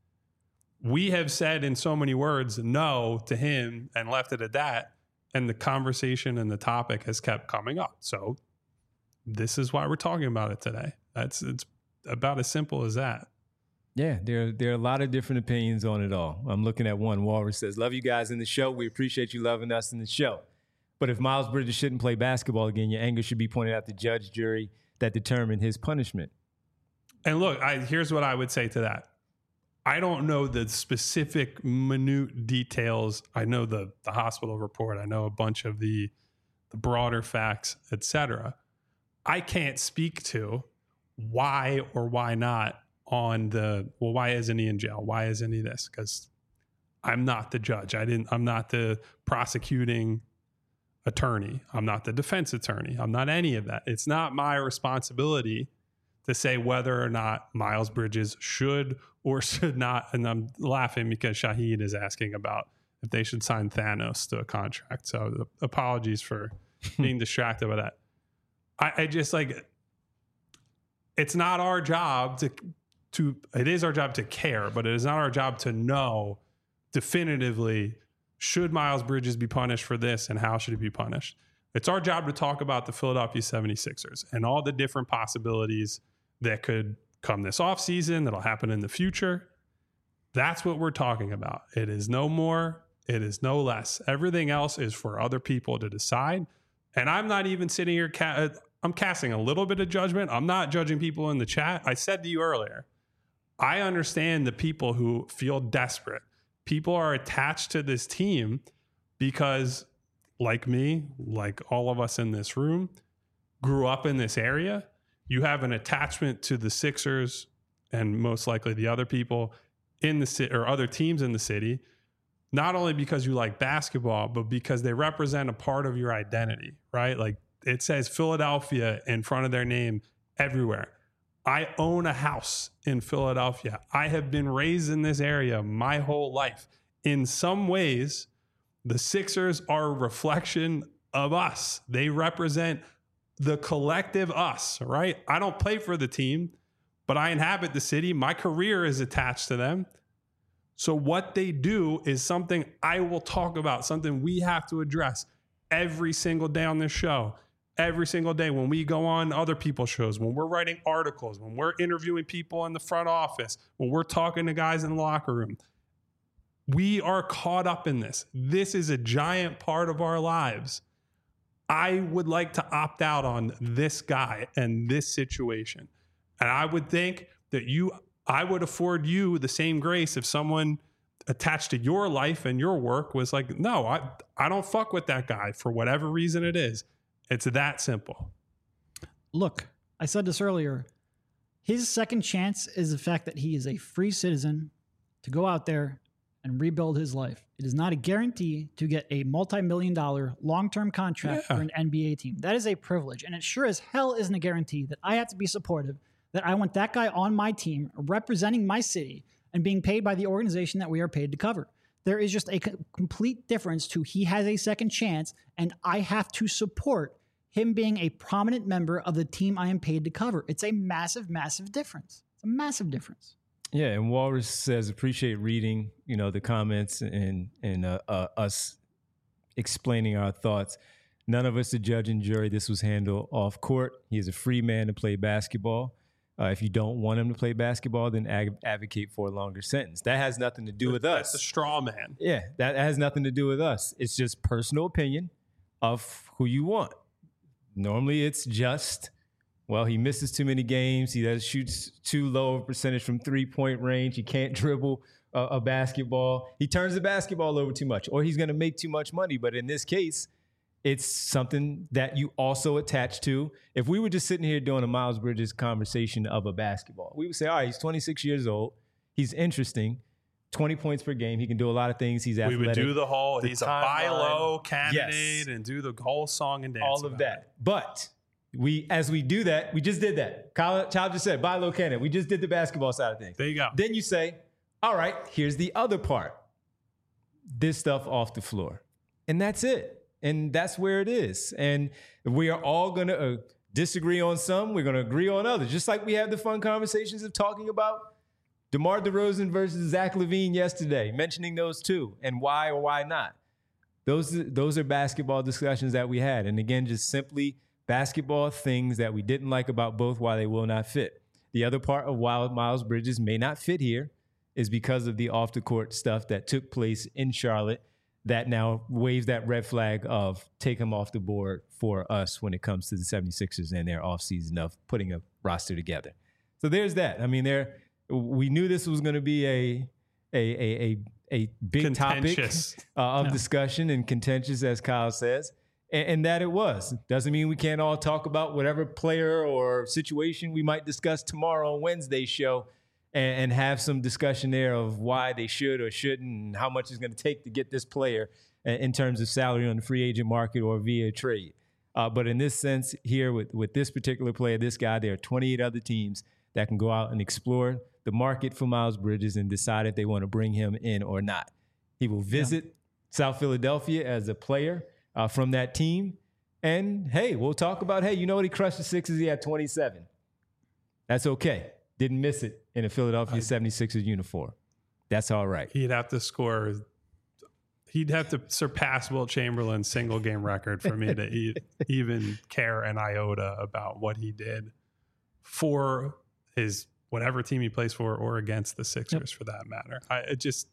We have said in so many words no to him and left it at that. And the conversation and the topic has kept coming up. So this is why we're talking about it today. That's it's about as simple as that. Yeah, there, there are a lot of different opinions on it all. I'm looking at one. Walrus says, love you guys in the show. We appreciate you loving us in the show. But if Miles Bridges shouldn't play basketball again, your anger should be pointed out to judge, jury that determine his punishment. And look, I, here's what I would say to that. I don't know the specific minute details. I know the the hospital report. I know a bunch of the the broader facts, et cetera. I can't speak to why or why not on the, well, why isn't he in jail? Why isn't he this? Because I'm not the judge. I didn't, I'm not the prosecuting attorney. I'm not the defense attorney. I'm not any of that. It's not my responsibility to say whether or not Miles Bridges should or should not. And I'm laughing because Shahid is asking about if they should sign Thanos to a contract. So apologies for being distracted by that. I, I just like, it's not our job to, to, it is our job to care, but it is not our job to know definitively, should Miles Bridges be punished for this and how should he be punished? It's our job to talk about the Philadelphia seventy-sixers and all the different possibilities that could come this offseason, that'll happen in the future. That's what we're talking about. It is no more, it is no less. Everything else is for other people to decide. And I'm not even sitting here, ca- I'm casting a little bit of judgment. I'm not judging people in the chat. I said to you earlier, I understand the people who feel desperate. People are attached to this team because, like me, like all of us in this room, grew up in this area. You have an attachment to the Sixers and most likely the other people in the city or other teams in the city, not only because you like basketball, but because they represent a part of your identity, right? Like it says Philadelphia in front of their name everywhere. I own a house in Philadelphia. I have been raised in this area my whole life. In some ways, the Sixers are a reflection of us. They represent the collective us, right? I don't play for the team, but I inhabit the city. My career is attached to them. So what they do is something I will talk about, something we have to address every single day on this show. Every single day when we go on other people's shows, when we're writing articles, when we're interviewing people in the front office, when we're talking to guys in the locker room, we are caught up in this. This is a giant part of our lives. I would like to opt out on this guy and this situation. And I would think that you, I would afford you the same grace if someone attached to your life and your work was like, no, I, I don't fuck with that guy for whatever reason it is. It's that simple. Look, I said this earlier. His second chance is the fact that he is a free citizen to go out there and rebuild his life. It is not a guarantee to get a multi-million dollar long-term contract Yeah. for an N B A team. That is a privilege. And it sure as hell isn't a guarantee that I have to be supportive, that I want that guy on my team representing my city and being paid by the organization that we are paid to cover. There is just a co- complete difference to he has a second chance and I have to support him being a prominent member of the team I am paid to cover. It's a massive, massive difference. It's a massive difference. Yeah, and Walrus says, appreciate reading, you know, the comments and and uh, uh, us explaining our thoughts. None of us are judge and jury. This was handled off court. He is a free man to play basketball. Uh, if you don't want him to play basketball, then ag- advocate for a longer sentence. That has nothing to do with us. That's a straw man. Yeah, that has nothing to do with us. It's just personal opinion of who you want. Normally, it's just, well, he misses too many games. He does shoots too low of a percentage from three-point range. He can't dribble a, a basketball. He turns the basketball over too much, or he's going to make too much money. But in this case, it's something that you also attach to. If we were just sitting here doing a Miles Bridges conversation of a basketball, we would say, all right, he's twenty-six years old. He's interesting. twenty points per game. He can do a lot of things. He's athletic. We would do the whole, The he's a buy timeline. low candidate Yes. and do the whole song and dance. All of about that. But we, as we do that, we just did that. Kyle, Child just said, buy low candidate. We just did the basketball side of things. it. There you go. Then you say, all right, here's the other part. This stuff off the floor. And that's it. And that's where it is. And we are all going to uh, disagree on some. We're going to agree on others. Just like we had the fun conversations of talking about DeMar DeRozan versus Zach LaVine yesterday, mentioning those two and why or why not. Those, those are basketball discussions that we had. And again, just simply basketball things that we didn't like about both, why they will not fit. The other part of why Miles Bridges may not fit here is because of the off-the-court stuff that took place in Charlotte that now waves that red flag of take him off the board for us when it comes to the seventy-sixers and their offseason of putting a roster together. So there's that. I mean, there we knew this was going to be a a a a, a big topic uh, of Yeah. discussion and contentious, as Kyle says, and, and that it was. Doesn't mean we can't all talk about whatever player or situation we might discuss tomorrow on Wednesday's show. and, and have some discussion there of why they should or shouldn't and how much it's going to take to get this player in terms of salary on the free agent market or via trade. Uh, but in this sense here with, with this particular player, this guy, there are twenty-eight other teams that can go out and explore the market for Miles Bridges and decide if they want to bring him in or not. He will visit yeah. South Philadelphia as a player uh, from that team. And, hey, we'll talk about, hey, you know what? He crushed the Sixers. He had twenty-seven. That's okay. Didn't miss it in a Philadelphia seventy-sixers uniform. That's all right. He'd have to score. He'd have to surpass Wilt Chamberlain's single game record for me to e- even care an iota about what he did for his whatever team he plays for or against the Sixers yep. for that matter. I it just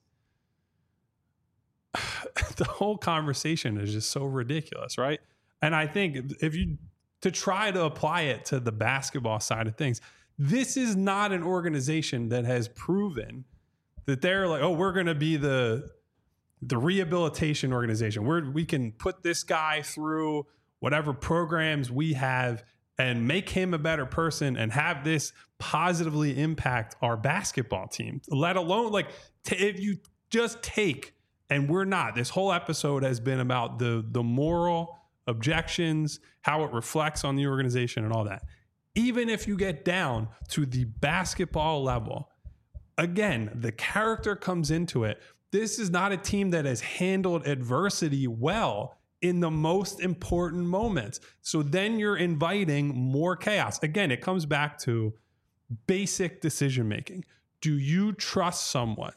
the whole conversation is just so ridiculous, right? And I think if you to try to apply it to the basketball side of things, this is not an organization that has proven that they're like, oh, we're going to be the the rehabilitation organization. We're, we can put this guy through whatever programs we have and make him a better person and have this positively impact our basketball team, let alone like t- if you just take, and we're not, this whole episode has been about the, the moral objections, how it reflects on the organization and all that. Even if you get down to the basketball level, again, the character comes into it. This is not a team that has handled adversity well in the most important moments. So then you're inviting more chaos. Again, it comes back to basic decision making. Do you trust someone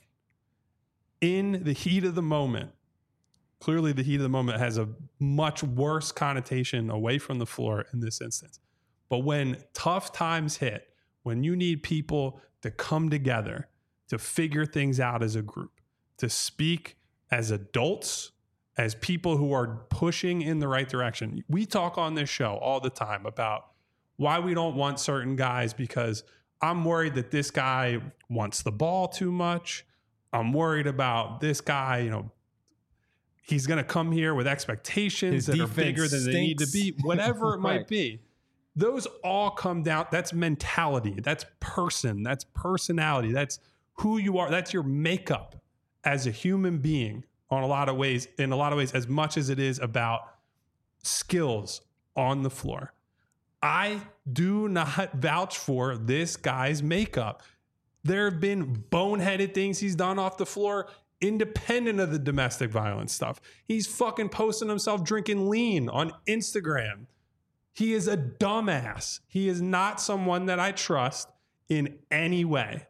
in the heat of the moment? Clearly, the heat of the moment has a much worse connotation away from the floor in this instance. But when tough times hit, when you need people to come together to figure things out as a group, to speak as adults, as people who are pushing in the right direction. We talk on this show all the time about why we don't want certain guys because I'm worried that this guy wants the ball too much. I'm worried about this guy, you know, he's going to come here with expectations His that are bigger than stinks. They need to be, whatever it might right. be. Those all come down. That's mentality. That's person. That's personality. That's who you are. That's your makeup as a human being on a lot of ways, in a lot of ways, as much as it is about skills on the floor. I do not vouch for this guy's makeup. There have been boneheaded things he's done off the floor independent of the domestic violence stuff. He's fucking posting himself drinking lean on Instagram. He is a dumbass. He is not someone that I trust in any way.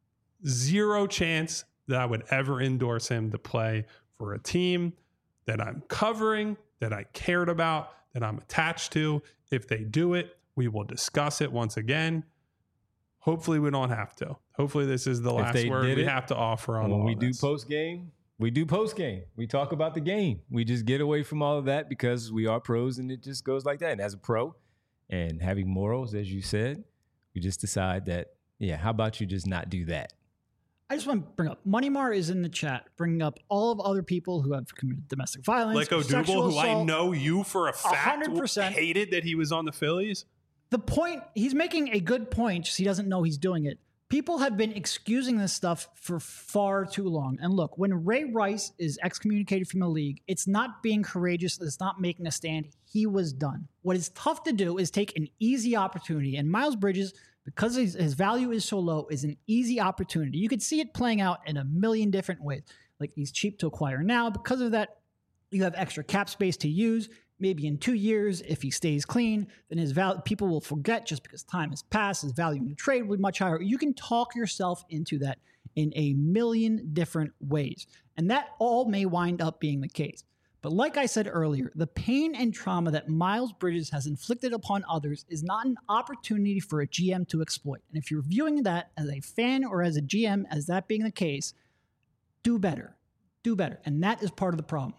Zero chance that I would ever endorse him to play for a team that I'm covering, that I cared about, that I'm attached to. If they do it, we will discuss it once again. Hopefully we don't have to. Hopefully this is the last word we it, have to offer on when all we this. do post game. We do post game. We talk about the game. We just get away from all of that because we are pros and it just goes like that. And as a pro and having morals, as you said, we just decide that, yeah, how about you just not do that? I just want to bring up Moneymar is in the chat, bringing up all of other people who have committed domestic violence. Like Odubel, who I know you for a fact one hundred percent hated that he was on the Phillies. The point, he's making a good point, just he doesn't know he's doing it. People have been excusing this stuff for far too long. And look, when Ray Rice is excommunicated from the league, it's not being courageous. It's not making a stand. He was done. What is tough to do is take an easy opportunity. And Miles Bridges, because his, his value is so low, is an easy opportunity. You could see it playing out in a million different ways. Like he's cheap to acquire now. Because of that, you have extra cap space to use. Maybe in two years, if he stays clean, then his value, people will forget just because time has passed. His value in the trade will be much higher. You can talk yourself into that in a million different ways. And that all may wind up being the case. But like I said earlier, the pain and trauma that Miles Bridges has inflicted upon others is not an opportunity for a G M to exploit. And if you're viewing that as a fan or as a G M, as that being the case, do better. Do better. And that is part of the problem.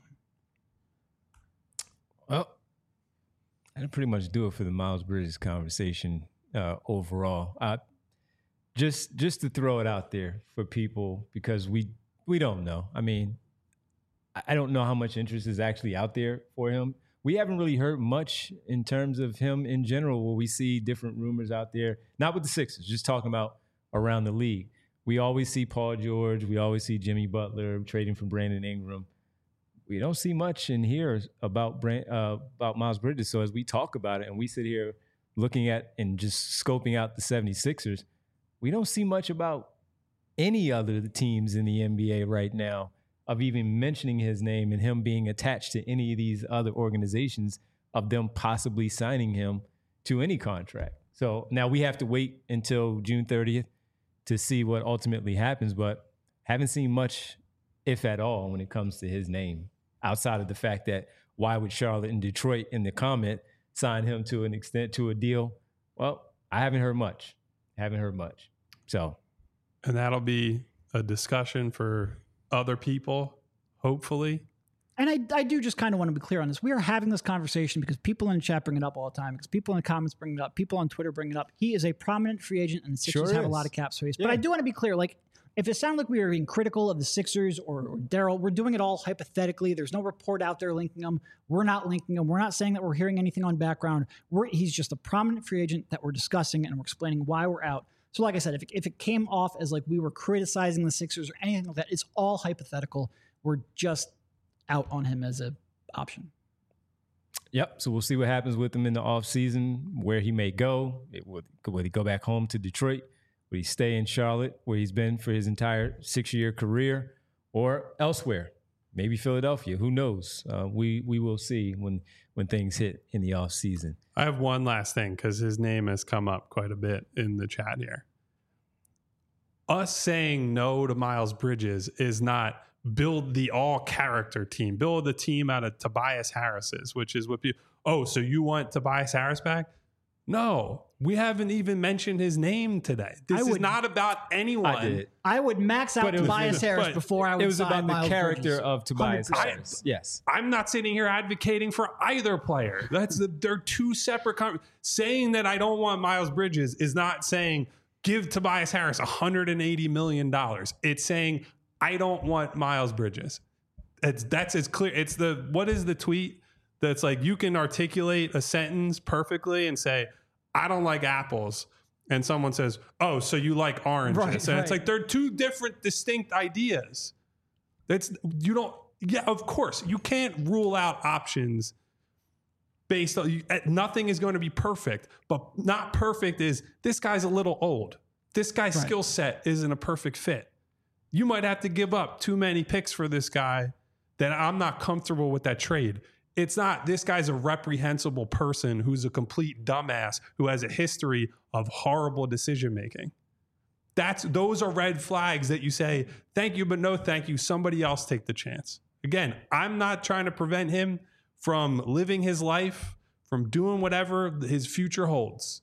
Well, that'll pretty much do it for the Miles Bridges conversation uh, overall. Uh, just just to throw it out there for people, because we we don't know. I mean, I don't know how much interest is actually out there for him. We haven't really heard much in terms of him in general, where we see different rumors out there, not with the Sixers, just talking about around the league. we always see Paul George. We always see Jimmy Butler trading for Brandon Ingram. We don't see much in here about Brand, uh, about Miles Bridges. So as we talk about it and we sit here looking at and just scoping out the seventy-sixers, we don't see much about any other teams in the N B A right now of even mentioning his name and him being attached to any of these other organizations, of them possibly signing him to any contract. So now we have to wait until June thirtieth to see what ultimately happens, but haven't seen much, if at all, when it comes to his name, outside of the fact that why would Charlotte and Detroit in the comment sign him to an extent, to a deal? Well, I haven't heard much. Haven't heard much. So, and that'll be a discussion for other people, hopefully. And I, I do just kind of want to be clear on this. We are having this conversation because people in the chat bring it up all the time, because people in the comments bring it up, people on Twitter bring it up. He is a prominent free agent, and the Sixers Sure have is. a lot of cap space. Yeah. But I do want to be clear, like, if it sounded like we were being critical of the Sixers or, or Daryl, we're doing it all hypothetically. There's no report out there linking them. We're not linking them. We're not saying that we're hearing anything on background. We're, he's just a prominent free agent that we're discussing, and we're explaining why we're out. So like I said, if it, if it came off as like we were criticizing the Sixers or anything like that, it's all hypothetical. We're just out on him as a option. Yep. So we'll see what happens with him in the offseason, where he may go. It would, would he go back home to Detroit? Would he stay in Charlotte, where he's been for his entire six-year career, or elsewhere? Maybe Philadelphia. Who knows? Uh, we we will see when when things hit in the offseason. I have one last thing, because his name has come up quite a bit in the chat here. Us saying no to Miles Bridges is not build the all-character team, build the team out of Tobias Harris's, which is what people, oh, so you want Tobias Harris back? No, we haven't even mentioned his name today. This I is would- not about anyone. I did. I would max out But it was- Tobias Harris but before I would It was sign about the Miles character Bridges. of Tobias one hundred percent. Harris. Yes. I'm not sitting here advocating for either player. That's the, they're two separate. Com- saying that I don't want Miles Bridges is not saying give Tobias Harris one hundred eighty million dollars. It's saying I don't want Miles Bridges. It's that's as clear. It's the what is the tweet that's like you can articulate a sentence perfectly and say I don't like apples, and someone says, oh, so you like oranges. Right, and it's right. like they're two different distinct ideas. That's you don't yeah, of course. You can't rule out options based on you, nothing is going to be perfect, but not perfect is this guy's a little old. This guy's Right. skill set isn't a perfect fit. You might have to give up too many picks for this guy that I'm not comfortable with that trade. It's not this guy's a reprehensible person who's a complete dumbass who has a history of horrible decision making. That's those are red flags that you say, thank you, but no thank you. Somebody else take the chance. Again, I'm not trying to prevent him from living his life, from doing whatever his future holds.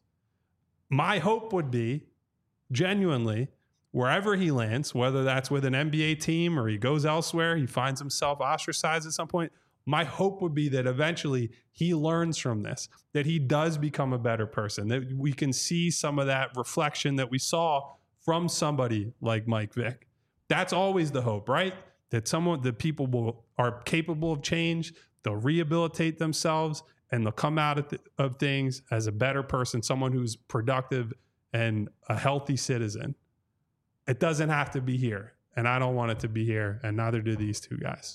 My hope would be, genuinely, wherever he lands, whether that's with an N B A team or he goes elsewhere, he finds himself ostracized at some point, my hope would be that eventually he learns from this, that he does become a better person, that we can see some of that reflection that we saw from somebody like Mike Vick. That's always the hope, right? That someone, that people will are capable of change, they'll rehabilitate themselves, and they'll come out of, th- of things as a better person, someone who's productive and a healthy citizen. It doesn't have to be here, and I don't want it to be here, and neither do these two guys.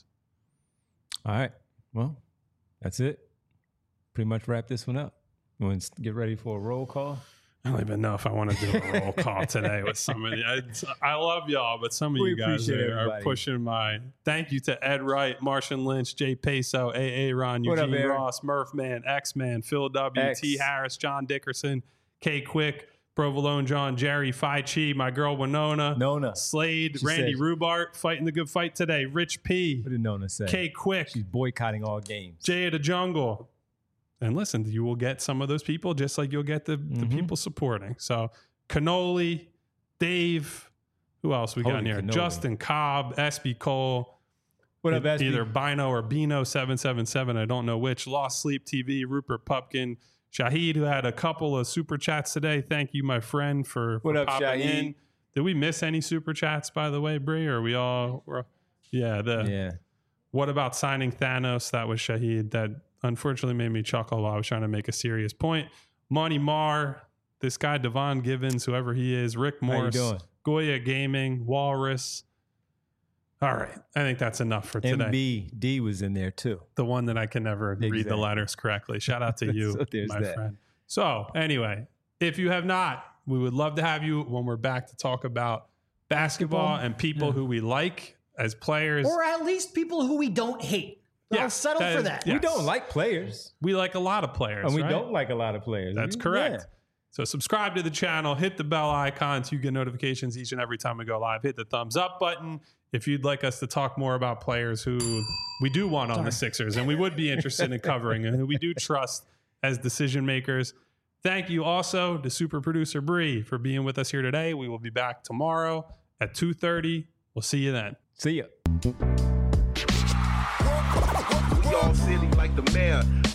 All right. Well, that's it. Pretty much wrap this one up. You want to get ready for a roll call? I don't even know if I want to do a roll call today with somebody. I, I love y'all, but some of We you guys appreciate are, are everybody. pushing my. Thank you to Ed Wright, Martian Lynch, Jay Peso, A A Ron, What up, Eugene Aaron? Ross, Murph Man, X Man, Phil W, X. T Harris, John Dickerson, K Quick, Provolone John, Jerry, Phi Chi, my girl Winona, Nona. Slade, She Randy said- Rubart, fighting the good fight today, Rich P, What did Nona say? K Quick, She's boycotting all games. Jay of the Jungle. And listen, you will get some of those people just like you'll get the, the Mhm. people supporting. So Cannoli, Dave, who else we got Holy in here? cannoli. Justin Cobb, S B Cole. What up, e- S B? Either Bino or Bino seven seven seven. I don't know which. Lost Sleep T V, Rupert Pupkin, Shahid, who had a couple of super chats today. Thank you, my friend, for, for What up, popping Shahid? in. Did we miss any super chats, by the way, Bree? Or are we all? We're, yeah, the Yeah. what about signing Thanos? That was Shahid. That unfortunately made me chuckle while I was trying to make a serious point. Monty Marr, this guy, Devon Givens, whoever he is, Rick How you Morse, doing? Goya Gaming, Walrus. All right. I think that's enough for today. M B D was in there too. The one that I can never read the Exactly. letters correctly. Shout out to you, So there's my that. friend. So anyway, if you have not, we would love to have you when we're back to talk about basketball, Basketball. and people Yeah. who we like as players. Or at least people who we don't hate. Yeah, I'll settle that for is- that. yeah. We don't like players, We like a lot of players. and we right? don't like a lot of players. That's We- correct. yeah. So subscribe to the channel, hit the bell icon so you get notifications each and every time we go live. Hit the thumbs up button if you'd like us to talk more about players who we do want on the Sixers and we would be interested in covering and who we do trust as decision makers. Thank you also to super producer Bree for being with us here today. We will be back tomorrow at two thirty. We'll see you then. See ya. We all silly like the mayor.